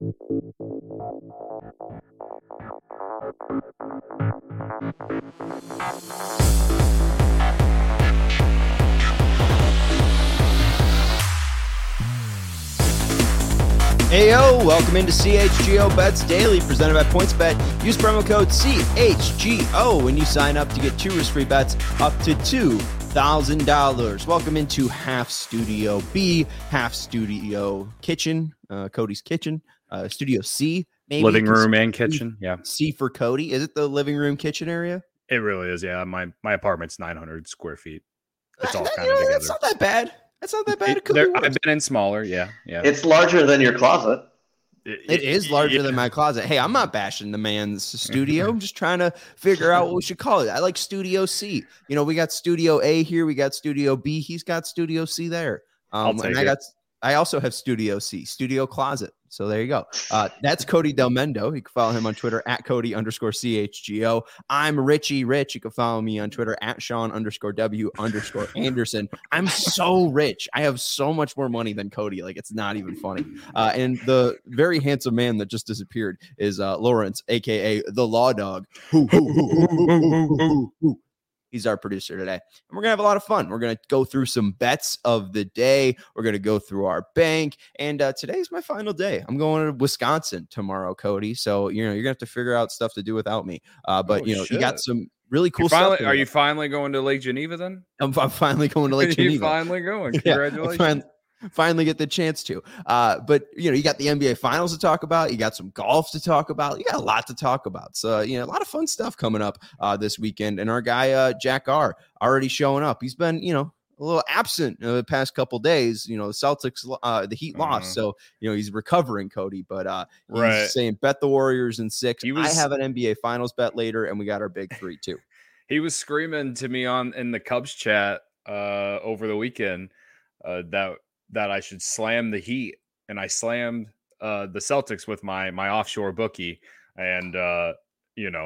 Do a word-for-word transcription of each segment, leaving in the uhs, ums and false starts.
Heyo, welcome into C H G O Bets Daily, presented by PointsBet. Use promo code C H G O when you sign up to get two risk-free bets up to two thousand dollars. Welcome into Half Studio B, Half Studio Kitchen, uh, Cody's Kitchen, uh, Studio C, maybe. Living room and kitchen, yeah. C for Cody. Is it the living room kitchen area? It really is, yeah. My my apartment's nine hundred square feet. It's all Uh, kind you of know, together. That's not that bad. That's not that bad. It- It could there- be worse. I've been in smaller, yeah, yeah. It's larger than your closet. It is larger yeah. than my closet. Hey, I'm not bashing the man's studio. I'm just trying to figure out what we should call it. I like Studio C. You know, we got Studio A here. We got Studio B. He's got Studio C there. Um, I'll take and I it. got, I also have Studio C, Studio Closet. So there you go. Uh, that's Cody Del Mendo. You can follow him on Twitter at Cody underscore C H G O. I'm Richie Rich. You can follow me on Twitter at Sean underscore W underscore Anderson. I'm so rich. I have so much more money than Cody. Like, it's not even funny. Uh, and the very handsome man that just disappeared is uh, Lawrence, a k a the Law Dog. Hoo, hoo, hoo, hoo, hoo, hoo, hoo, hoo. He's our producer today. And we're going to have a lot of fun. We're going to go through some bets of the day. We're going to go through our bank. And uh, today's my final day. I'm going to Wisconsin tomorrow, Cody. So, you know, you're going to have to figure out stuff to do without me. Uh, but, Oh, you know, shit. you got some really cool You finally, stuff. are you finally going to Lake Geneva then? I'm, I'm finally going to Lake you Geneva. finally going. Yeah, Congratulations. fin- finally get the chance to. Uh, but, you know, you got the N B A Finals to talk about. You got some golf to talk about. You got a lot to talk about. So, you know, a lot of fun stuff coming up uh, this weekend. And our guy, uh, Jack R, already showing up. He's been, you know, a little absent uh, the past couple days. You know, the Celtics, uh, the Heat lost. Mhm. So, you know, he's recovering, Cody. But uh, he's Right. saying bet the Warriors in six. He was- I have an N B A Finals bet later, and we got our big three, too. He was screaming to me on in the Cubs chat uh, over the weekend uh, that that I should slam the Heat, and I slammed uh, the Celtics with my my offshore bookie, and uh, you know,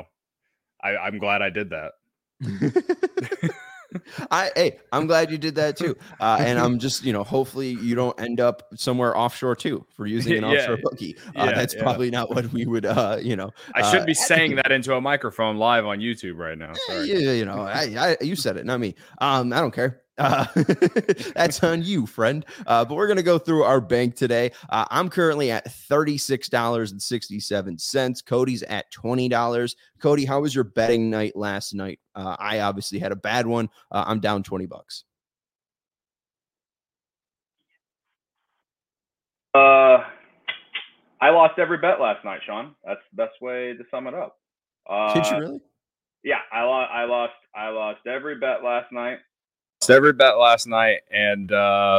I, I'm glad I did that. I hey, I'm glad you did that too. Uh, and I'm just, you know, hopefully you don't end up somewhere offshore too for using an Yeah, offshore bookie. Uh, yeah, that's yeah. probably not what we would, uh, you know. I should uh, be saying that into a microphone live on YouTube right now. Sorry. Yeah, you know, I, I, you said it, not me. Um, I don't care. Uh, that's on you, friend. Uh, but we're going to go through our bank today. Uh, I'm currently at thirty-six dollars and sixty-seven cents. Cody's at twenty dollars. Cody, how was your betting night last night? Uh, I obviously had a bad one. Uh, I'm down twenty bucks. Uh, I lost every bet last night, Sean. That's the best way to sum it up. Uh, Did you really? Yeah, I lost. I lost. I lost every bet last night. Lost every bet last night, and uh,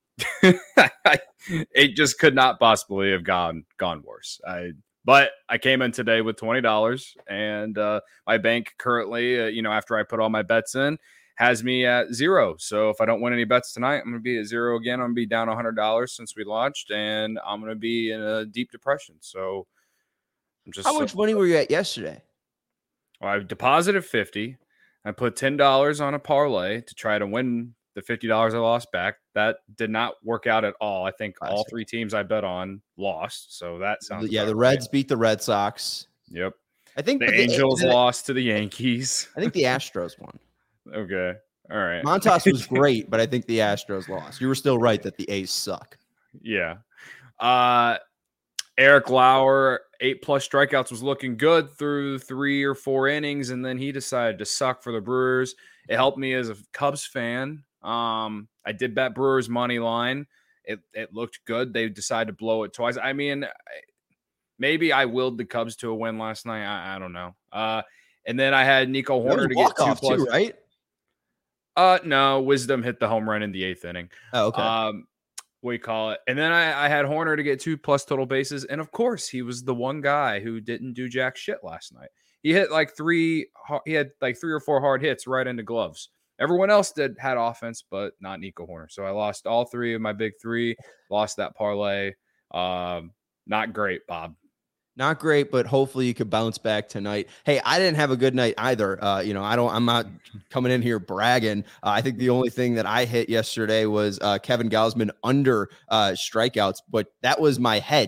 it just could not possibly have gone gone worse. I but I came in today with twenty dollars, and uh, my bank currently, uh, you know, after I put all my bets in, has me at zero. So if I don't win any bets tonight, I'm going to be at zero again. I'm going to be down one hundred dollars since we launched, and I'm going to be in a deep depression. So I'm just How much money were you at yesterday? Well, I deposited fifty. I put ten dollars on a parlay to try to win the fifty dollars I lost back. That did not work out at all. I think all Classic. three teams I bet on lost. So that sounds Yeah, about the right. Reds beat the Red Sox. Yep. I think The but Angels the, lost to the Yankees. I think the Astros won. Okay. All right. Montas was great, but I think the Astros lost. You were still right that the A's suck. Yeah. Uh Eric Lauer, eight plus strikeouts, was looking good through three or four innings, and then he decided to suck for the Brewers. It helped me as a Cubs fan. Um, I did bet Brewers money line. It it looked good. They decided to blow it twice. I mean, maybe I willed the Cubs to a win last night. I, I don't know. Uh, and then I had Nico Horner to get two walk-off plus. too, right? Uh, no, Wisdom hit the home run in the eighth inning. Oh, okay. Um, what do you call it? And then I, I had Horner to get two plus total bases. And of course, he was the one guy who didn't do jack shit last night. He hit like three, he had like three or four hard hits right into gloves. Everyone else did had offense, but not Nico Horner. So I lost all three of my big three, lost that parlay. Um, not great, Bob. Not great, but hopefully you could bounce back tonight. Hey, I didn't have a good night either. Uh, you know, I don't, I'm not coming in here bragging. Uh, I think the only thing that I hit yesterday was uh, Kevin Gausman under uh, strikeouts, but that was my hedge.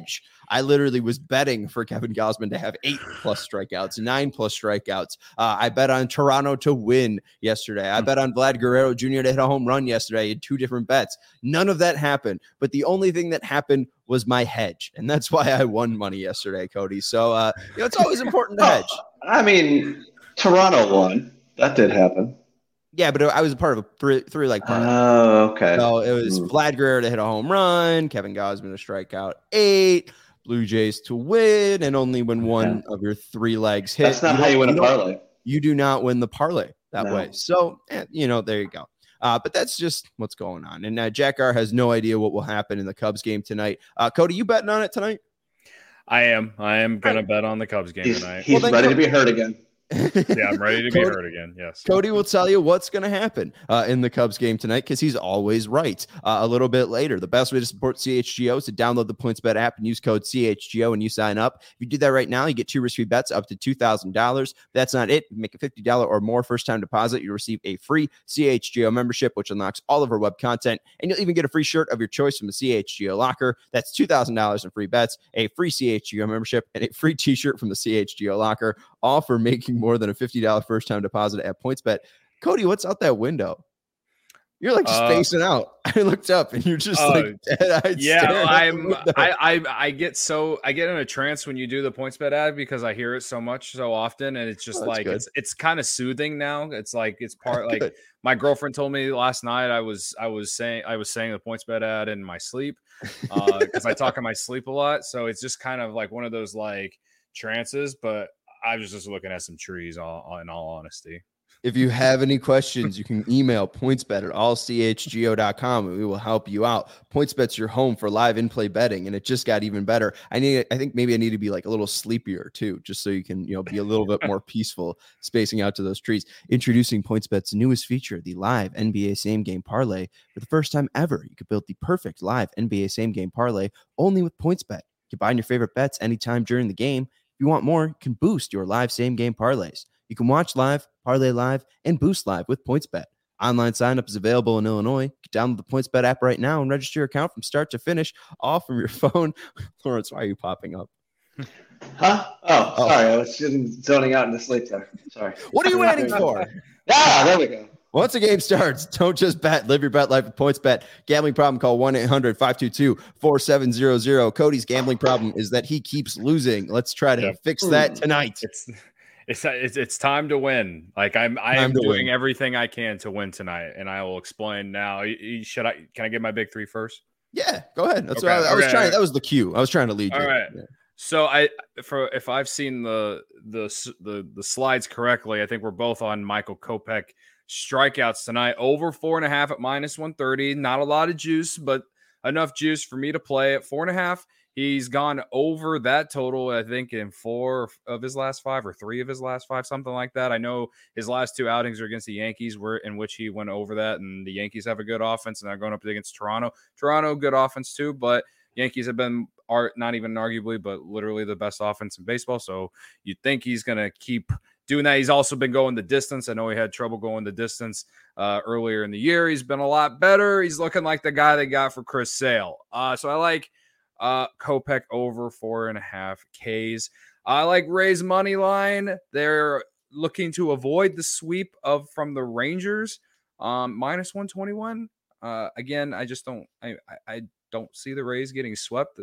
I literally was betting for Kevin Gausman to have eight plus strikeouts, nine plus strikeouts. Uh, I bet on Toronto to win yesterday. I bet on Vlad Guerrero Junior to hit a home run yesterday. I had two different bets. None of that happened. But the only thing that happened was my hedge. And that's why I won money yesterday, Cody. So, uh, you know, it's always important to hedge. I mean, Toronto won. That did happen. Yeah, but I was a part of a three, three leg parlay. Oh, okay. So it was Ooh. Vlad Guerrero to hit a home run, Kevin Gausman to strike out eight, Blue Jays to win, and only when one yeah. of your three legs hit. That's not you how you win a parlay. You do not win the parlay that no. way. So, eh, you know, there you go. Uh, but that's just what's going on. And uh, Jack R has no idea what will happen in the Cubs game tonight. Uh, Cody, you betting on it tonight? I am. I am going to bet on the Cubs game he's, tonight. He's well, ready to be hurt again. Yeah, I'm ready to Cody, be hurt again. Yes. Cody will tell you what's going to happen uh, in the Cubs game tonight because he's always right. Uh, a little bit later, the best way to support C H G O is to download the PointsBet app and use code C H G O and you sign up. If you do that right now, you get two risk-free bets up to two thousand dollars. That's not it. You make a fifty dollars or more first-time deposit. You receive a free C H G O membership, which unlocks all of our web content, and you'll even get a free shirt of your choice from the C H G O locker. That's two thousand dollars in free bets, a free C H G O membership, and a free t-shirt from the C H G O locker, all for making more than a fifty dollars first-time deposit at PointsBet. Cody, what's out that window? You're like uh, spacing out. I looked up and you're just uh, like dead-eyed. Yeah, I'm. I, I I get so I get in a trance when you do the PointsBet ad because I hear it so much so often, and it's just oh, like good. it's it's kind of soothing now. It's like it's part like good. My girlfriend told me last night I was I was saying I was saying the PointsBet ad in my sleep because uh, I talk in my sleep a lot, so it's just kind of like one of those like trances, but. I was just looking at some trees, all, in all honesty. If you have any questions, you can email pointsbet at all c h g o dot com and we will help you out. PointsBet's your home for live in-play betting, and it just got even better. I need, I think maybe I need to be like a little sleepier too, just so you can, you know, be a little bit more peaceful, spacing out to those trees. Introducing PointsBet's newest feature, the live N B A Same Game Parlay. For the first time ever, you could build the perfect live N B A Same Game Parlay only with PointsBet. You can buy your favorite bets anytime during the game. If you want more, you can boost your live same-game parlays. You can watch live, parlay live, and boost live with PointsBet. Online sign-up is available in Illinois. You can download the PointsBet app right now and register your account from start to finish, all from your phone. Lawrence, why are you popping up? Huh? Oh, oh. sorry. I was just zoning out in the sleep there. Sorry. What are you waiting for? Ah, there we go. Once the game starts, don't just bet. Live your bet life with PointsBet. Gambling problem, call one eight hundred five two two four seven zero zero. Cody's gambling problem is that he keeps losing. Let's try to yep. fix that tonight. It's it's it's, it's time to win. Like I'm I am doing win. everything I can to win tonight, and I will explain now. Should I can I get my big three first? Yeah, go ahead. That's okay, what I, I was okay, trying. okay. That was the cue. I was trying to lead you. All right. Yeah. So I for if I've seen the the the the slides correctly, I think we're both on Michael Kopech strikeouts tonight. Over four and a half at minus one thirty. Not a lot of juice, but enough juice for me to play at four and a half. He's gone over that total, I think, in four of his last five or three of his last five, something like that. I know his last two outings are against the Yankees, where in which he went over that, and the Yankees have a good offense, and they're going up against Toronto. Toronto, good offense too, but Yankees have been are not even arguably, but literally the best offense in baseball. So you'd think he's going to keep doing that. He's also been going the distance. I know he had trouble going the distance uh, earlier in the year. He's been a lot better. He's looking like the guy they got for Chris Sale. Uh, so I like uh, Kopech over four and a half Ks. I like Rays money line. They're looking to avoid the sweep of from the Rangers, um, minus one twenty-one. Uh, again, I just don't. I I, I don't see the Rays getting swept,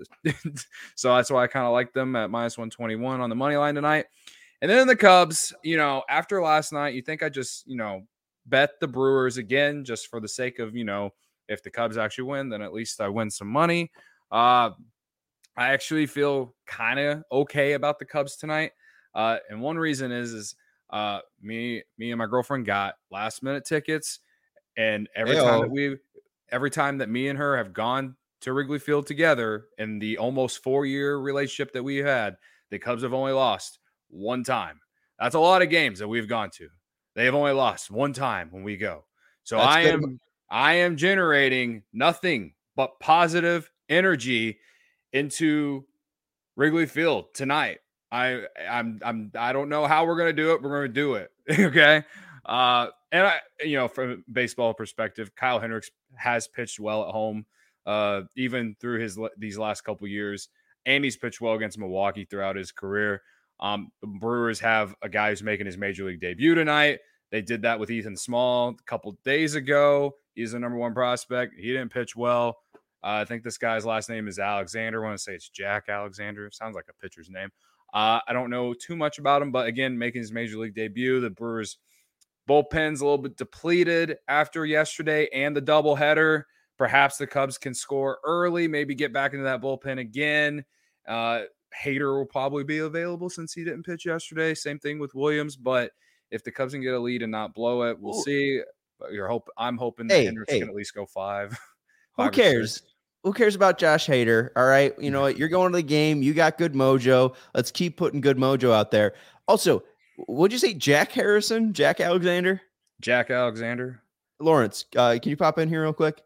so that's why I kind of like them at minus one twenty-one on the money line tonight. And then the Cubs, you know, after last night, you think I just, you know, bet the Brewers again, just for the sake of, you know, if the Cubs actually win, then at least I win some money. Uh, I actually feel kind of okay about the Cubs tonight. Uh, and one reason is, is uh, me, me and my girlfriend got last minute tickets. And every Hey-o. time that we, every time that me and her have gone to Wrigley Field together in the almost four year relationship that we had, the Cubs have only lost one time. That's a lot of games that we've gone to. They have only lost one time when we go. So That's I good. am I am generating nothing but positive energy into Wrigley Field tonight. I I'm I'm I don't know how we're gonna do it. We're gonna do it. Okay. Uh and I you know, from a baseball perspective, Kyle Hendricks has pitched well at home, uh, even through his these last couple years. and he's pitched well against Milwaukee throughout his career. Um, the Brewers have a guy who's making his major league debut tonight. They did that with Ethan Small a couple days ago. He's the number one prospect. He didn't pitch well. Uh, I think this guy's last name is Alexander. I want to say it's Jack Alexander. Sounds like a pitcher's name. Uh, I don't know too much about him, but again, making his major league debut. The Brewers bullpen's a little bit depleted after yesterday and the doubleheader. Perhaps the Cubs can score early, maybe get back into that bullpen again. Uh, Hader will probably be available since he didn't pitch yesterday. Same thing with Williams, but if the Cubs can get a lead and not blow it, we'll Ooh. see. But you're hope I'm hoping that hey, Hendricks hey. can at least go five. Who five cares? Who cares about Josh Hader? All right. You know what? You're going to the game. You got good mojo. Let's keep putting good mojo out there. Also, what'd you say? Jack Harrison? Jack Alexander? Jack Alexander. Lawrence, uh, can you pop in here real quick?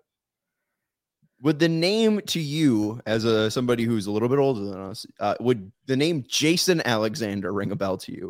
Would the name to you, as a somebody who's a little bit older than us, uh, would the name Jason Alexander ring a bell to you?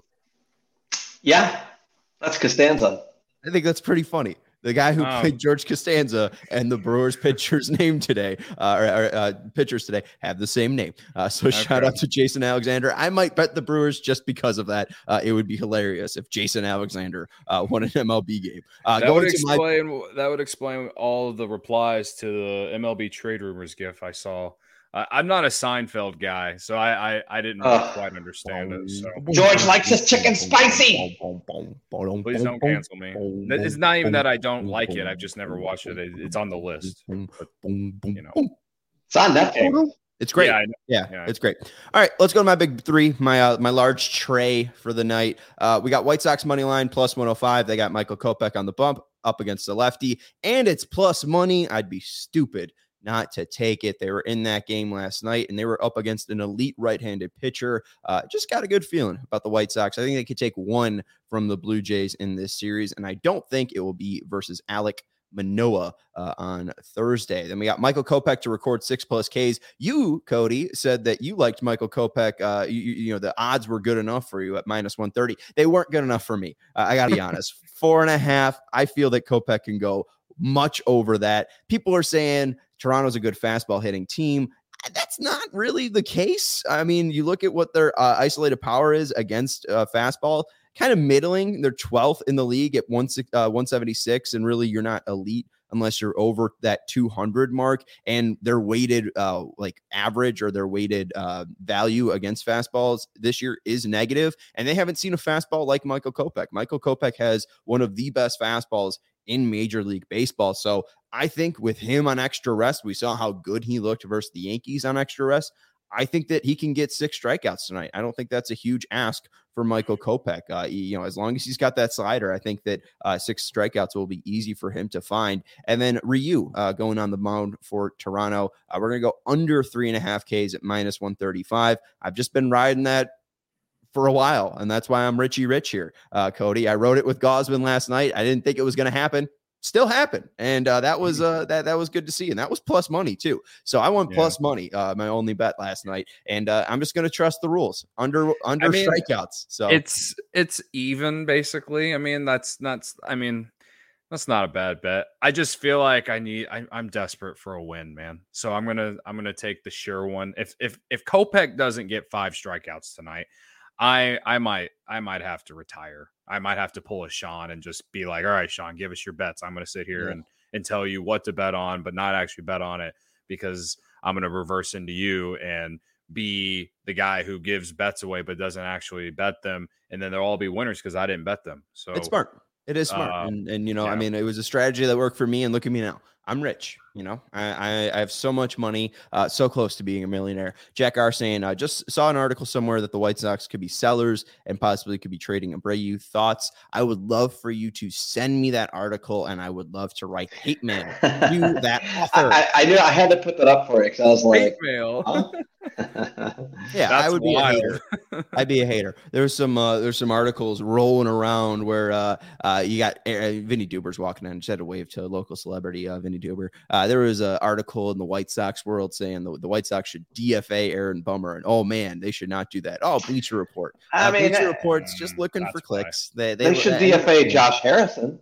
Yeah, that's Costanza. I think that's pretty funny. The guy who um, played George Costanza and the Brewers pitcher's name today, uh, or, or uh, pitchers today, have the same name. Uh, so okay. Shout out to Jason Alexander. I might bet the Brewers just because of that. Uh, it would be hilarious if Jason Alexander uh, won an M L B game. Uh, that, would explain, my- that would explain all of the replies to the M L B trade rumors gif I saw. Uh, I'm not a Seinfeld guy, so I I, I didn't uh, quite understand it. So. George likes his chicken spicy. Please don't cancel me. It's not even that I don't like it. I've just never watched it. It's on the list. But, you know, it's on Netflix. It's great. Yeah, yeah, yeah, it's great. All right, let's go to my big three, my uh, my large tray for the night. Uh, we got White Sox money line plus one oh five. They got Michael Kopech on the bump up against the lefty, and it's plus money. I'd be stupid not to take it. They were in that game last night, and they were up against an elite right-handed pitcher. Uh, just got a good feeling about the White Sox. I think they could take one from the Blue Jays in this series, and I don't think it will be versus Alek Manoah uh, on Thursday. Then we got Michael Kopech to record six plus Ks. You, Cody, said that you liked Michael Kopech. Uh, you, you know, the odds were good enough for you at minus one thirty. They weren't good enough for me. Uh, I got to be honest. Four and a half. I feel that Kopech can go much over that. People are saying Toronto's a good fastball hitting team. That's not really the case. I mean, you look at what their uh, isolated power is against uh, fastball, kind of middling. They're twelfth in the league at one, uh, one seventy-six, and really you're not elite unless you're over that two hundred mark, and their weighted uh, like average or their weighted uh, value against fastballs this year is negative, and they haven't seen a fastball like Michael Kopech. Michael Kopech has one of the best fastballs in Major League Baseball. So I think with him on extra rest, we saw how good he looked versus the Yankees on extra rest. I think that he can get six strikeouts tonight. I don't think that's a huge ask for Michael Kopech. Uh, he, you know, as long as he's got that slider, I think that uh, six strikeouts will be easy for him to find. And then Ryu uh, going on the mound for Toronto. Uh, we're going to go under three and a half Ks at minus one thirty-five. I've just been riding that for a while, and that's why I'm Richie Rich here, uh, Cody. I wrote it with Gosman last night. I didn't think it was going to happen. Still happened, and uh, that was uh, that that was good to see, and that was plus money too. So I won yeah. plus money, uh, my only bet last night, and uh, I'm just going to trust the rules under under I mean, strikeouts. So it's it's even basically. I mean, that's not. I mean, that's not a bad bet. I just feel like I need. I, I'm desperate for a win, man. So I'm gonna I'm gonna take the sure one. If if if Kopech doesn't get five strikeouts tonight, I I might I might have to retire. I might have to pull a Sean and just be like, all right, Sean, give us your bets. I'm going to sit here yeah. and, and tell you what to bet on, but not actually bet on it because I'm going to reverse into you and be the guy who gives bets away but doesn't actually bet them. And then they'll all be winners because I didn't bet them. So it's smart. It is smart. Uh, and, and, you know, yeah. I mean, it was a strategy that worked for me, and look at me now. I'm rich. You know, I, I, I have so much money, uh, so close to being a millionaire. Jack R saying, I uh, just saw an article somewhere that the White Sox could be sellers and possibly could be trading Abreu. Thoughts? I would love for you to send me that article, and I would love to write hate mail to that author. I, I knew I had to put that up for it because I was like, hate mail. Huh? Yeah, That's I would wild. be a hater. I'd be a hater. There's some uh, there's some articles rolling around where uh, uh, you got uh, Vinny Duber's walking in. Just had to wave to a local celebrity, uh, Vinny Duber. Uh, there was an article in the White Sox world saying the, the White Sox should D F A Aaron Bummer, and oh man, they should not do that. Oh, Bleacher Report. Uh, I mean, Bleacher uh, Report's just looking for clicks. They, they, they should uh, D F A Josh Harrison.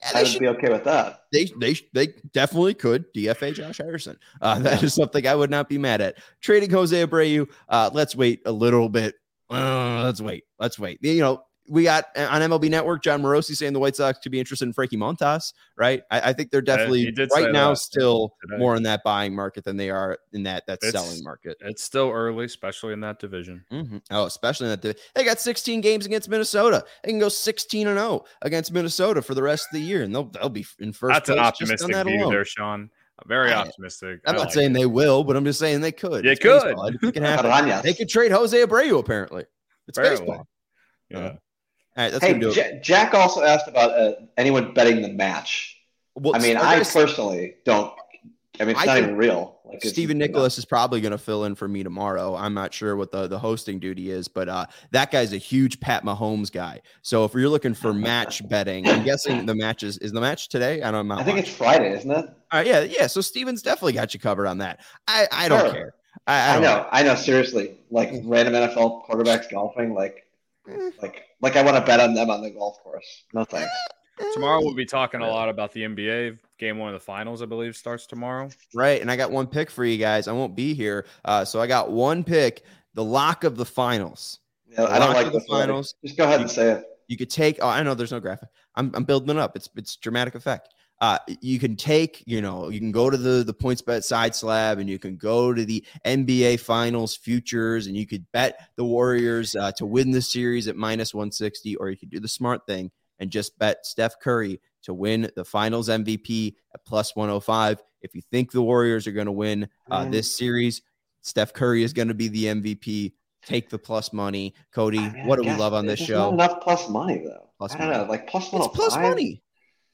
Yeah, I would be okay with that. They they they definitely could D F A Josh Harrison. Uh, that is something I would not be mad at. Trading Jose Abreu. Uh, let's wait a little bit. Uh, let's wait. Let's wait. You know, we got on M L B Network, John Morosi saying the White Sox could be interested in Frankie Montas, right? I, I think they're definitely uh, right now still today. more in that buying market than they are in that that it's, selling market. It's still early, especially in that division. Mm-hmm. Oh, especially in that division. They got sixteen games against Minnesota. They can go sixteen and oh against Minnesota for the rest of the year, and they'll they'll be in first. That's place an optimistic that view alone. there, Sean. Very I, optimistic. I'm I not like saying it. they will, but I'm just saying they could. They it's could. Baseball. It can happen. They could trade Jose Abreu. Apparently, it's Apparently. baseball. Yeah. Uh, all right, that's Hey, gonna do it. J- Jack also asked about uh, anyone betting the match. Well, I mean, I I guess personally don't. I mean, it's I not think even real. Like it's- Stephen Nicholas is probably going to fill in for me tomorrow. I'm not sure what the, the hosting duty is, but uh, that guy's a huge Pat Mahomes guy. So if you're looking for match betting, I'm guessing the match is, is the match today? I don't know. I think it's Friday, isn't it? All right, yeah, yeah. So Steven's definitely got you covered on that. I, I don't Sure. care. I, I, I don't know, I know. Seriously, like random N F L quarterbacks golfing, like, like, like I want to bet on them on the golf course. No thanks. Tomorrow we'll be talking a lot about the N B A. Game one of the finals, I believe, starts tomorrow. Right, and I got one pick for you guys. I won't be here, uh, so I got one pick. The lock of the finals. Yeah, I don't Lock like of the this already. finals. Just go ahead and say it. You could take. Oh, I know there's no graphic. I'm I'm building it up. It's it's dramatic effect. Uh, you can take, you know, you can go to the the points bet side slab, and you can go to the N B A Finals futures, and you could bet the Warriors uh, to win the series at minus one sixty, or you could do the smart thing and just bet Steph Curry to win the Finals M V P at plus one oh five. If you think the Warriors are going to win uh, this series, Steph Curry is going to be the M V P. Take the plus money, Cody. I mean, what do I we guess love on this there's show? Not enough plus money though. Plus I don't money. know, like plus It's one. plus money.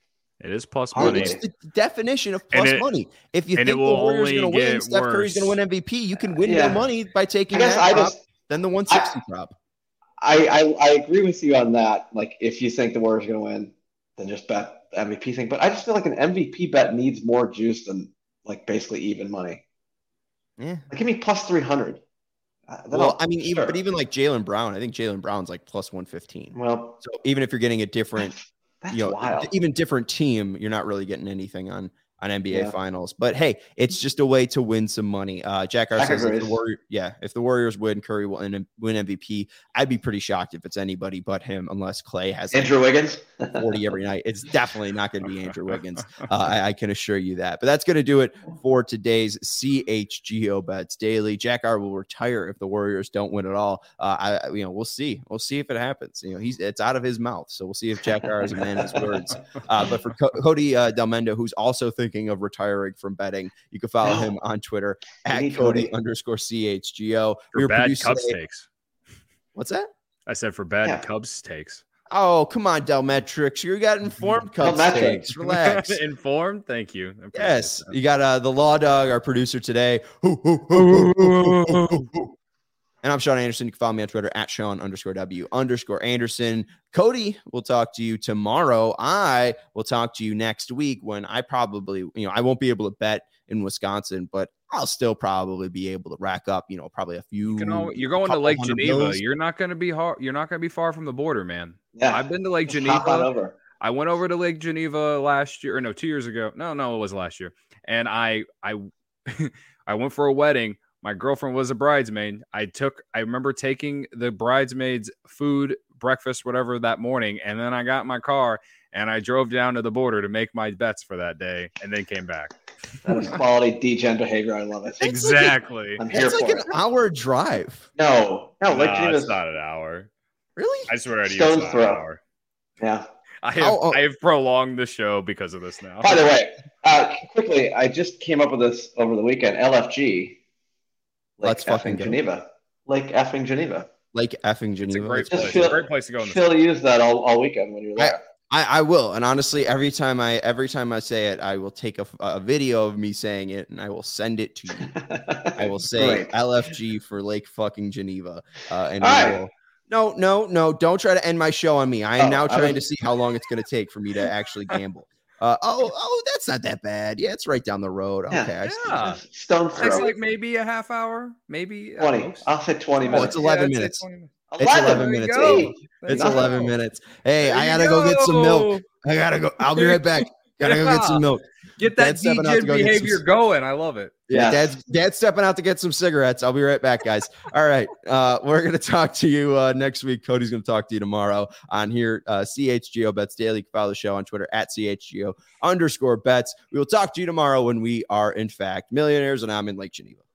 It is plus Hardly. money. It's the definition of plus it- money. If you and think it the will Warriors are only going to win, get Steph Curry's going to worse. win M V P, you can win Yeah. more money by I taking guess that I prop just than the one sixty prop. I, I I agree with you on that. Like if you think the Warriors are going to win, then just bet the M V P thing. But I just feel like an M V P bet needs more juice than like basically even money. Yeah. Like, give me plus three hundred. Uh, then Well, I'll- I mean, even sure. but even like Jaylen Brown, I think Jaylen Brown's like plus one fifteen. well, So even if you're getting a different, that's you know, wild. even different team, you're not really getting anything on on N B A Yeah. Finals. But hey, it's just a way to win some money. Uh, Jack R Jack says, if the agrees. Warrior, yeah, if the Warriors win, Curry will win, win M V P. I'd be pretty shocked if it's anybody but him, unless Clay has like Andrew Wiggins. forty every night. It's definitely not going to be Andrew Wiggins. Uh, I, I can assure you that. But that's going to do it for today's C H G O Bets Daily. Jack R will retire if the Warriors don't win at all. Uh, I, you know, we'll see. We'll see if it happens. You know, he's it's out of his mouth, so we'll see if Jack R is a man of his words. Uh, but for Co- Cody uh, Delmendo, who's also thinking of retiring from betting, you can follow him on Twitter at need Cody Cody. underscore C H G O. For We were bad produced Cubs today- takes. What's that? I said for bad Yeah. Cubs takes. Oh, come on, Delmetrics. You got informed Cubs Delmetrics. takes. Relax. Informed. Thank you. I appreciate Yes, that. you got uh, the Law Dog, our producer today. Hoo, hoo, hoo, hoo, hoo, hoo, hoo, hoo. And I'm Sean Anderson. You can follow me on Twitter at Sean underscore W underscore Anderson. Cody will talk to you tomorrow. I will talk to you next week when I probably, you know, I won't be able to bet in Wisconsin, but I'll still probably be able to rack up, you know, probably a few. You can al- you're going to couple Lake hundred Geneva. bills. You're not going to be hard. You're not going to be far from the border, man. Yeah, I've been to Lake just hop on Geneva. over. I went over to Lake Geneva last year, or no, two years ago. No, no, it was last year. And I, I, I went for a wedding. My girlfriend was a bridesmaid. I took, I remember taking the bridesmaids' food, breakfast, whatever that morning, and then I got in my car and I drove down to the border to make my bets for that day, and then came back. That is quality D-gen behavior. I love it. It's like a- Exactly. I'm here It's like for an it. hour drive. No, no, Lake Nah, Geneva's it's not an hour. Really? I swear to you, Stone's it's not throw. an hour. yeah. I have, Oh, oh. I have prolonged the show because of this now. By the way, uh, quickly, I just came up with this over the weekend. L F G, Lake Let's fucking effing go. Geneva, Lake effing Geneva. Like effing It's a Geneva. great Just place. feel- It's a great place to go in the Phil used that all, all weekend when you were there. I, I will, and honestly, every time I every time I say it, I will take a, a video of me saying it, and I will send it to you. I will say Great. L F G for Lake fucking Geneva, uh, and All we right. will. No, no, no! Don't try to end my show on me. I am Oh, now I trying to was- see how long it's going to take for me to actually gamble. Uh, oh, oh, that's not that bad. Yeah, it's right down the road. Yeah. Okay, I see. Yeah. Stone It's throw. like maybe a half hour, maybe at twenty. most. I'll say twenty Oh, minutes. it's eleven I'd say minutes. twenty minutes. It's eleven There you minutes. go. Abe. There It's you eleven go. minutes. Hey, There I you gotta go get some milk. I gotta go. I'll be right back. Gotta go get some milk. Get that Dad's stepping out D J to go get behavior some- going. I love it. Yeah, Yes. dad's dad's stepping out to get some cigarettes. I'll be right back, guys. All right. Uh, we're gonna talk to you uh, next week. Cody's gonna talk to you tomorrow on here. Uh, C H G O Bets Daily. You can follow the show on Twitter at C H G O underscore bets. We will talk to you tomorrow when we are in fact millionaires and I'm in Lake Geneva.